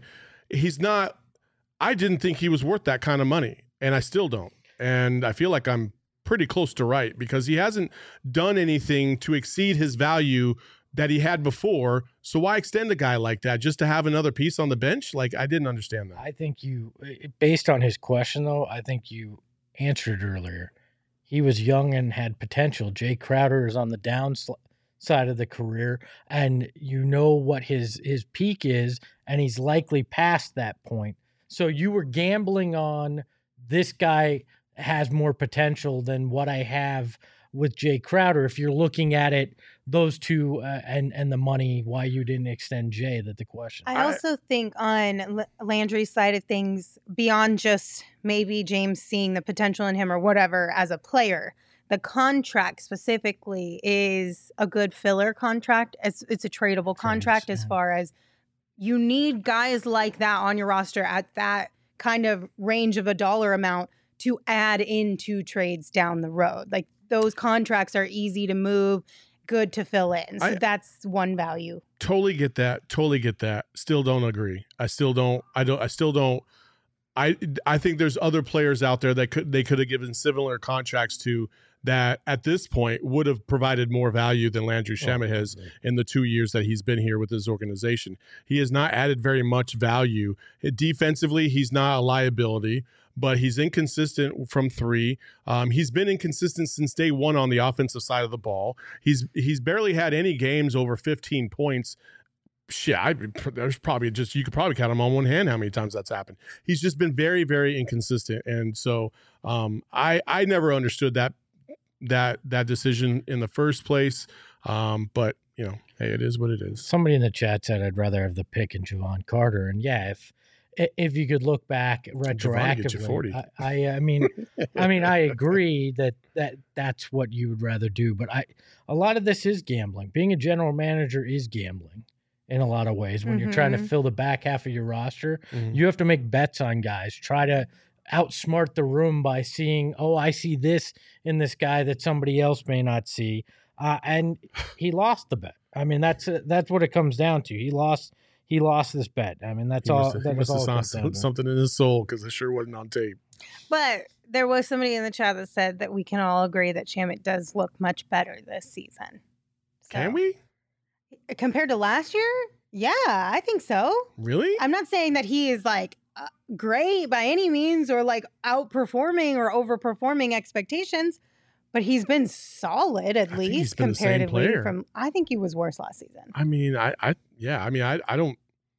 I didn't think he was worth that kind of money, and I still don't. And I feel like I'm pretty close to right, because he hasn't done anything to exceed his value that he had before. So why extend a guy like that just to have another piece on the bench? Like, I didn't understand that. I think based on his question, though, I think you answered earlier. He was young and had potential. Jay Crowder is on the downside of the career, and you know what his peak is, and he's likely past that point. So you were gambling on this guy has more potential than what I have with Jay Crowder. If you're looking at it, those two and the money, why you didn't extend Jay, that the question. I also think on Landry's side of things, beyond just maybe James seeing the potential in him or whatever as a player, the contract specifically is a good filler contract. It's a tradable contract as far as you need guys like that on your roster at that kind of range of a dollar amount to add into trades down the road. Like, those contracts are easy to move, good to fill in. So that's one value. Totally get that. Still don't agree. I think there's other players out there that they could have given similar contracts to, that at this point would have provided more value than Landry Shamet has in the 2 years that he's been here with this organization. He has not added very much value. Defensively, he's not a liability, but he's inconsistent from three. He's been inconsistent since day one on the offensive side of the ball. He's barely had any games over 15 points. Shit, there's probably you could probably count him on one hand how many times that's happened. He's just been very, very inconsistent. And so I never understood that decision in the first place. But you know, hey, it is what it is. Somebody in the chat said I'd rather have the pick in Javon Carter. And yeah, if you could look back retroactively, I mean, I agree that's what you would rather do. But a lot of this is gambling. Being a general manager is gambling in a lot of ways. When you're trying to fill the back half of your roster, you have to make bets on guys. Try to outsmart the room by seeing, I see this in this guy that somebody else may not see. And he lost the bet. I mean, that's what it comes down to. He lost this bet. I mean, that's all. That was all something in his soul, because it sure wasn't on tape. But there was somebody in the chat that said that we can all agree that Shamet does look much better this season. So, can we? Compared to last year? Yeah, I think so. Really? I'm not saying that he is like great by any means, or like outperforming or overperforming expectations, but he's been solid at least comparatively. I think he was worse last season. I mean, I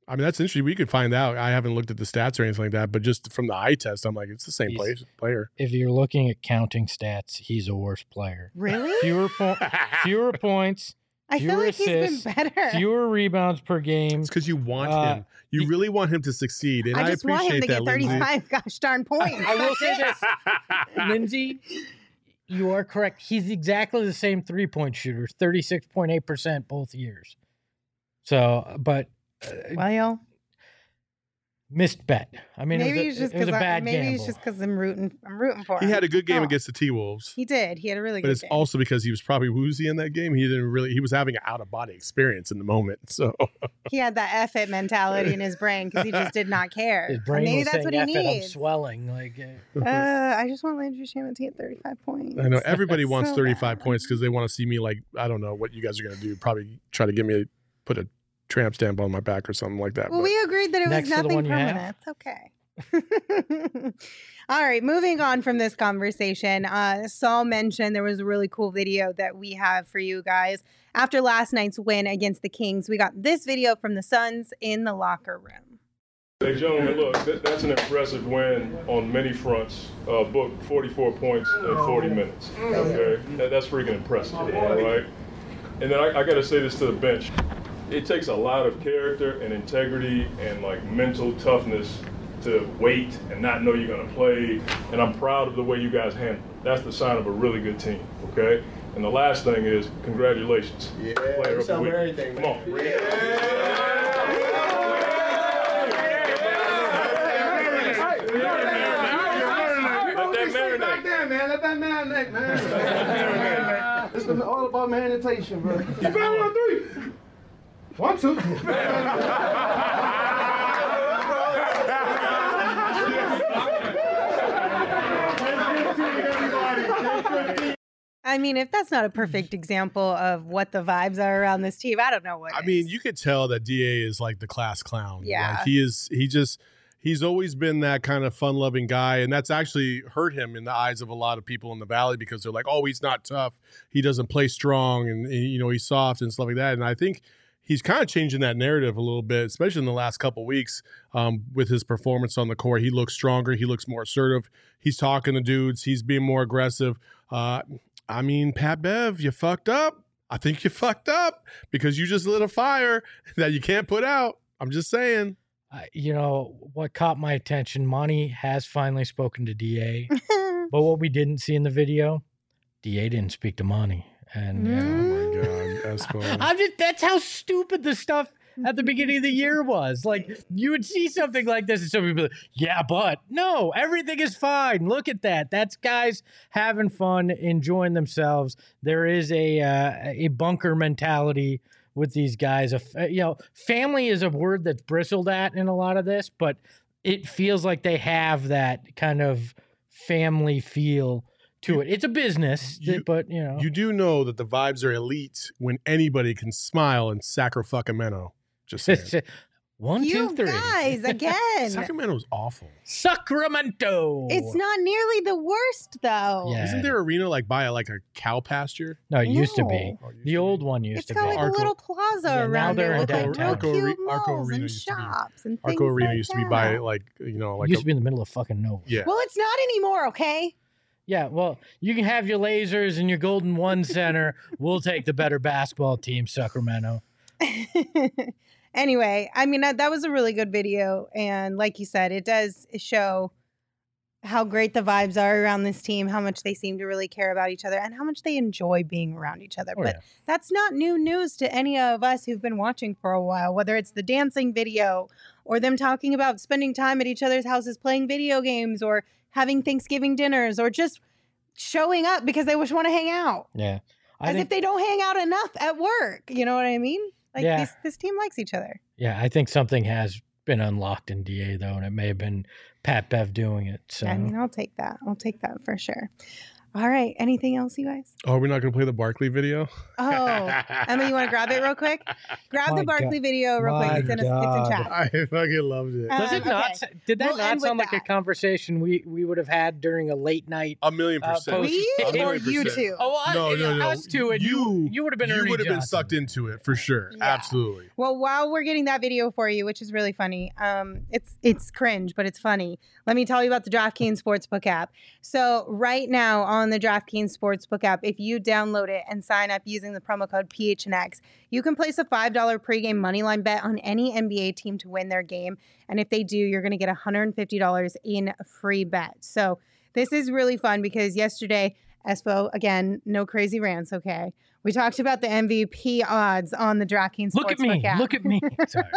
I mean, that's interesting. We could find out. I haven't looked at the stats or anything like that, but just from the eye test, I'm like, it's the same player. If you're looking at counting stats, he's a worse player. Really? Fewer points. I feel like assists, he's been better. Fewer rebounds per game. It's because you want him. You really want him to succeed, and I just want him appreciate to that, get 35 Lindsay. gosh darn points. I will say this, Lindsay, you are correct. He's exactly the same 3-point shooter, 36.8% both years. So, but Well, missed bet. I mean, maybe it was a bad maybe gamble. it's just because I'm rooting for him. He had a good game Oh. against the T-Wolves. He did. He had a really But good it's game. also because he was probably woozy in that game. He was having an out-of-body experience in the moment. So He had that F it mentality in his brain because he just did not care. His brain Maybe was that's saying, what he "F it, I'm needs. swelling." Like, I just want Landry Shamet to get 35 points. I know everybody wants So 35 bad. points because they want to see me like, I don't know what you guys are going to do. Probably try to get me put a tramp stamp on my back or something like that. Well, but we agreed that it Next was to the nothing one you have? permanent. It's okay. All right, moving on from this conversation. Saul mentioned there was a really cool video that we have for you guys. After last night's win against the Kings, we got this video from the Suns in the locker room. Hey, gentlemen, look, that's an impressive win on many fronts. Booked 44 points in 40 minutes. Okay, that's freaking impressive, all right? And then I got to say this to the bench. It takes a lot of character and integrity and like mental toughness to wait and not know you're going to play. And I'm proud of the way you guys handle it. That's the sign of a really good team, okay? And the last thing is, congratulations. Yeah, Player of the week. everything, Come man. on. Let that marinate. Back there, man. Let that marinate, man. It's all about marination, bro. You fell on 3. 1, 2. I mean, if that's not a perfect example of what the vibes are around this team, I don't know what I is. mean, you could tell that DA is like the class clown. Yeah. Like he's always been that kind of fun-loving guy, and that's actually hurt him in the eyes of a lot of people in the Valley because they're like, oh, he's not tough. He doesn't play strong, and he's soft and stuff like that. And I think he's kind of changing that narrative a little bit, especially in the last couple of weeks with his performance on the court. He looks stronger. He looks more assertive. He's talking to dudes. He's being more aggressive. I mean, Pat Bev, you fucked up. I think you fucked up because you just lit a fire that you can't put out. I'm just saying. What caught my attention, Monty has finally spoken to DA, but what we didn't see in the video, DA didn't speak to Monty. And Oh my God, Espo. that's how stupid the stuff at the beginning of the year was. Like, you would see something like this and some people, yeah, but no, everything is fine. Look at that. That's guys having fun, enjoying themselves. There is a bunker mentality with these guys. Family is a word that's bristled at in a lot of this, but it feels like they have that kind of family feel to it. It's a business, but You do know that the vibes are elite when anybody can smile in Sacramento. Just saying. 1, 2, You 3. guys, again. Sacramento's awful. Sacramento. It's not nearly the worst, though. Yeah. Isn't their arena like by like a cow pasture? No, it used to be. No. The old one used It's to got be. like Arco- a little plaza Yeah, now around they're it in with like downtown. real cute Arco malls Arena and used to be- shops and things Arco Arena like used to be by that. like It used to be in the middle of fucking nowhere. yeah. Well, it's not anymore, okay? Yeah, well, you can have your lasers and your Golden One Center. We'll take the better basketball team, Sacramento. Anyway, I mean, that was a really good video. And like you said, it does show how great the vibes are around this team, how much they seem to really care about each other, and how much they enjoy being around each other. Oh, But yeah. that's not new news to any of us who've been watching for a while, whether it's the dancing video or them talking about spending time at each other's houses playing video games or having Thanksgiving dinners or just showing up because they just want to hang out. Yeah. If they don't hang out enough at work. You know what I mean? Like Yeah. this team likes each other. Yeah, I think something has been unlocked in DA, though, and it may have been Pat Bev doing it. So I mean, I'll take that. I'll take that for sure. All right. Anything else, you guys? Oh, we're not going to play the Barkley video? Oh, Emma, you want to grab it real quick? Grab My the Barkley video real quick. It's in chat. I fucking loved it. Does it not? Okay. Did that We'll not end sound with like a that. conversation we would have had during a late night? 1,000,000%. post- We A or million you percent. two? Oh, No. us two, and you would have been You Ernie would have been Johnson. sucked into it for sure. Yeah. Absolutely. Well, while we're getting that video for you, which is really funny, it's cringe, but it's funny. Let me tell you about the DraftKings Sportsbook app. So right now on the DraftKings Sportsbook app, if you download it and sign up using the promo code PHNX, you can place a $5 pregame moneyline bet on any NBA team to win their game. And if they do, you're going to get $150 in free bet. So this is really fun because yesterday, Espo, again, no crazy rants, okay? We talked about the MVP odds on the DraftKings Look at Sportsbook me. app. Look at me. Sorry.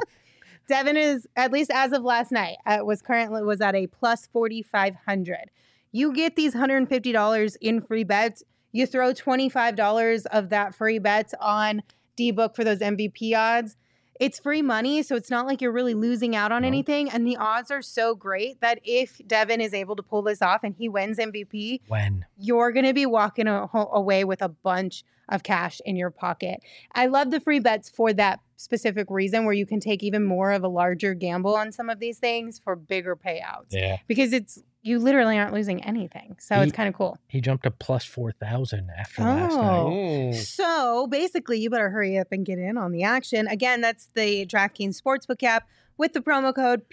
Devin is, at least as of last night, was at a plus 4,500. You get these $150 in free bets. You throw $25 of that free bets on D-Book for those MVP odds. It's free money, so it's not like you're really losing out on anything. And the odds are so great that if Devin is able to pull this off and he wins MVP, When? you're going to be walking away with a bunch of cash in your pocket. I love the free bets for that specific reason, where you can take even more of a larger gamble on some of these things for bigger payouts. Yeah. Because you literally aren't losing anything. So it's kind of cool. He jumped to plus 4,000 after last night. Oh. So basically, you better hurry up and get in on the action. Again, that's the DraftKings Sportsbook app with the promo code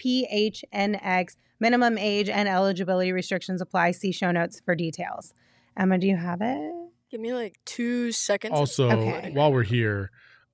PHNX. Minimum age and eligibility restrictions apply. See show notes for details. Emma, do you have it? Give me like 2 seconds. Also, Okay. while we're here,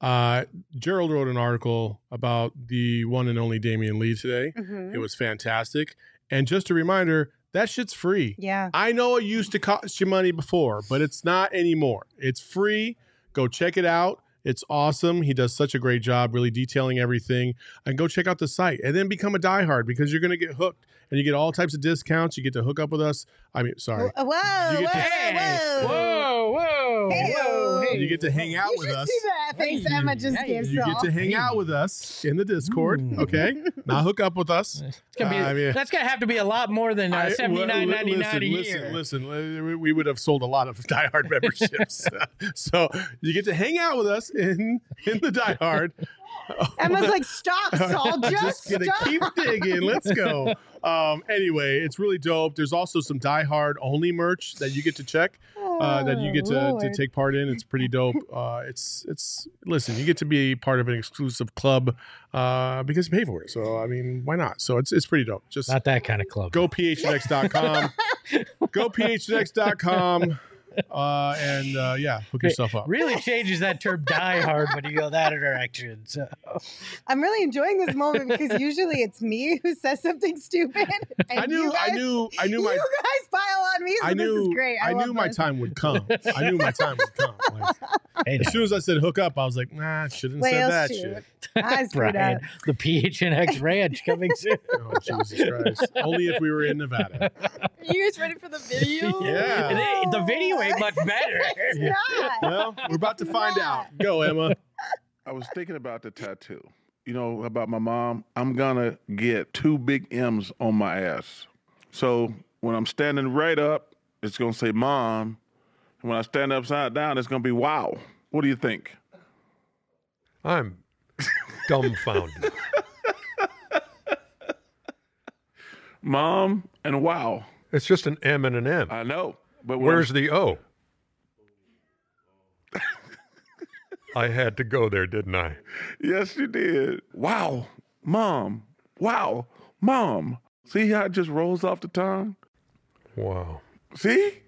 Gerald wrote an article about the one and only Damian Lee today. Mm-hmm. It was fantastic. And just a reminder, that shit's free. Yeah. I know it used to cost you money before, but it's not anymore. It's free. Go check it out. It's awesome. He does such a great job really detailing everything. And go check out the site and then become a diehard because you're going to get hooked and you get all types of discounts. You get to hook up with us. I mean, sorry. Whoa, You get to- whoa. Whoa. Hey-o. You get to hang out You with should us. see that face Emma just Hey, gave You get to Saul. hang out with us in the Discord, okay? Not hook up with us. It's gonna be, I mean- that's going to have to be a lot more than $79.99 a year. Listen, we would have sold a lot of diehard memberships. So you get to hang out with us in the diehard. Emma's like, stop, Saul, just gonna stop. keep digging. Let's go. Anyway, it's really dope. There's also some diehard only merch that you get to check. That you get to take part in. It's pretty dope. It's listen, you get to be part of an exclusive club because you pay for it. So I mean, why not? So it's pretty dope. Just Not that kind of club. go phnx.com. Go phnx.com. Yeah, hook yourself up. Really changes that term die hard when you go that direction. So I'm really enjoying this moment because usually it's me who says something stupid. And I knew you guys, you my. You guys pile on me, so this is great. I love knew my this. time would come. I knew my time would come. Like, hey, as soon as I said hook up, I was like, nah, shouldn't have said Well, that shoot. shit. I screwed Brian, up. the PHNX Ranch coming soon. Oh, Jesus Christ. Only if we were in Nevada. Are you guys ready for the video? Yeah. The video ain't much better. It's not. Well, we're about to find out. Go, Emma. I was thinking about the tattoo. You know, about my mom. I'm gonna get 2 big M's on my ass. So when I'm standing right up, it's gonna say mom. And when I stand upside down, it's gonna be wow. What do you think? I'm dumbfounded. Mom and wow. It's just an M and an M. I know. But when Where's the O? I had to go there, didn't I? Yes, you did. Wow, mom. Wow, mom. See how it just rolls off the tongue? Wow. See?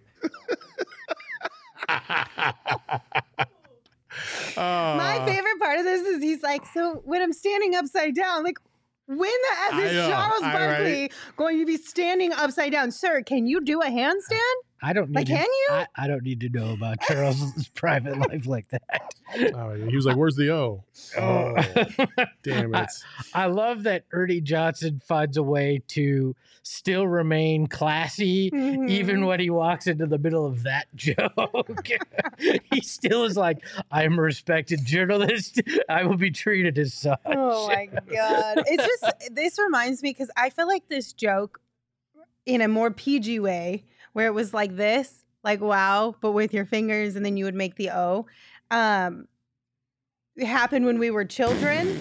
My favorite part of this is he's like, so when I'm standing upside down, like, when the F is I know, Charles Barkley right? going to be standing upside down? Sir, can you do a handstand? I don't need Like, to, can you? I don't need to know about Charles's private life like that. Oh, he was like, where's the O? Oh, damn it. I love that Ernie Johnson finds a way to still remain classy Mhm. even when he walks into the middle of that joke. He still is like, I'm a respected journalist. I will be treated as such. Oh my God. It's just, this reminds me because I feel like this joke in a more PG way where it was like this like wow, but with your fingers, and then you would make the O. It happened when we were children.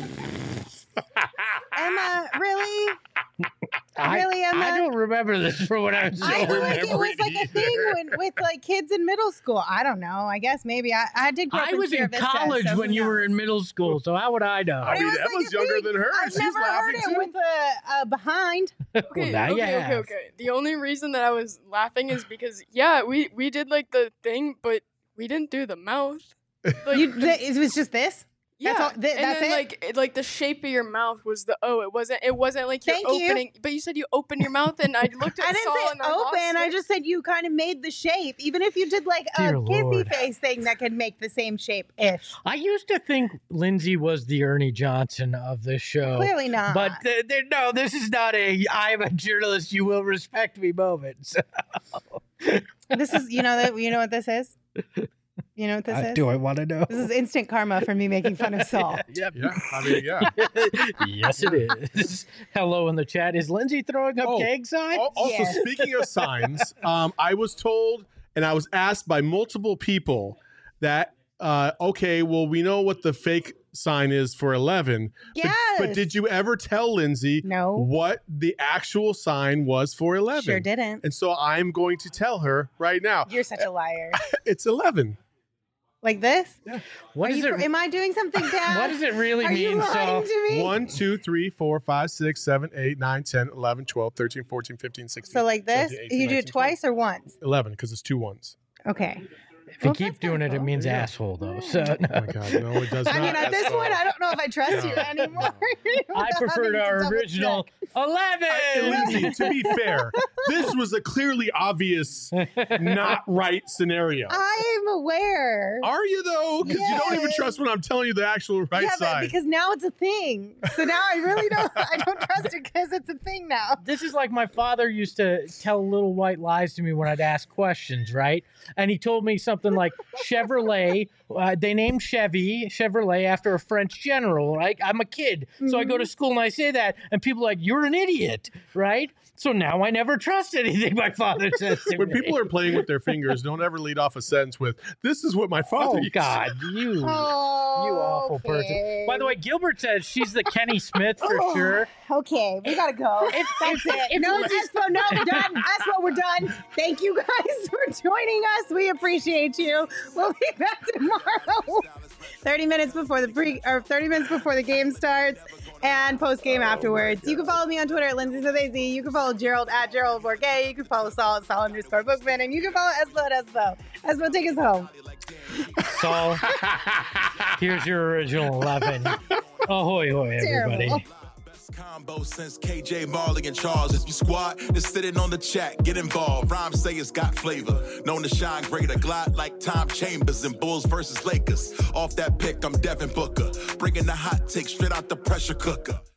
Emma, really? Really, Emma? I don't remember this from when I was I feel like it remember was like a thing with like kids in middle school. I don't know. I guess maybe I did grow up I was Sierra in Vista, college so when who you were knows? in middle school, so how would I know? I mean, It was Emma's like a younger thing. than her. I've She's never heard laughing it too. with a behind. Okay, now you have. okay. The only reason that I was laughing is because we did like the thing, but we didn't do the mouth. Like, It was just this. yeah, all- and that's then it? like the shape of your mouth was the O. It wasn't like you're Thank you. opening. But you said you open your mouth, and I looked at I didn't Saul say and I lost open. I it. just said you kind of made the shape. Even if you did like a Dear kissy Lord. face thing that could make the same shape ish. I used to think Lindsay was the Ernie Johnson of this show. Clearly not. But no, this is not a I'm a journalist, you will respect me moment. So, This is you know what this is? You know what this is? do I want to know? This is instant karma for me making fun of Saul. Yep. Yeah, I mean, yeah. Yes, it is. Hello in the chat. Is Lindsay throwing up Oh, gang signs? Also, Yes. speaking of signs, I was told and I was asked by multiple people that, okay, well, we know what the fake sign is for 11. Yes. But did you ever tell Lindsay No. what the actual sign was for 11? Sure didn't. And so I'm going to tell her right now. You're such a liar. It's 11. Like this? What is it? Am I doing something bad? What does it really Are you mean? lying So, to me? 1, 2, 3, 4, 5, 6, 7, 8, 9, 10, 11, 12, 13, 14, 15, 16. So like this? 17, 18, You do 19, it twice or once? 11 because it's 2 ones. Okay. if you Well, keep that's doing kinda it, it cool. means Yeah. asshole, though. So, Oh my God, no, it does not. I mean, at this point, I don't know if I trust you anymore. I without preferred having to our double original check. 11. Lindsay, to be fair, this was a clearly obvious not right scenario. I'm aware. Are you though? Because you don't even Yes. trust when I'm telling you the actual right yeah, but side. because now it's a thing. So now I really don't. I don't trust it because it's a thing now. This is like my father used to tell little white lies to me when I'd ask questions, right? And he told me something like Chevrolet. They named Chevrolet after a French general, right? I'm a kid, so I go to school and I say that, and people are like, "You're an idiot," right? So now I never trust anything my father says to when me. people are playing with their fingers, don't ever lead off a sentence with, "This is what my father." Oh used to God, you Oh, awful person. By the way, Gilbert says she's the Kenny Smith for Oh, sure. Okay, we gotta go. That's it. No, Espo, no, we're done. Espo, we're done. Thank you guys for joining us. We appreciate you. We'll be back tomorrow. 30 minutes before the game starts and post game afterwards. You can follow me on Twitter at Lindsay Smith AZ. You can follow Gerald at Gerald Bourget. You can follow Saul at Saul_Bookman. And you can follow Espo at Espo. Espo, take us home. Saul, here's your original 11. Ahoy, hoy, everybody. Terrible. Combo since KJ Marley and Charles. If you squad, just sitting on the chat, get involved. Rhymes say it's got flavor. Known to shine greater. Glide like Tom Chambers in Bulls versus Lakers. Off that pick, I'm Devin Booker. Bringing the hot take straight out the pressure cooker.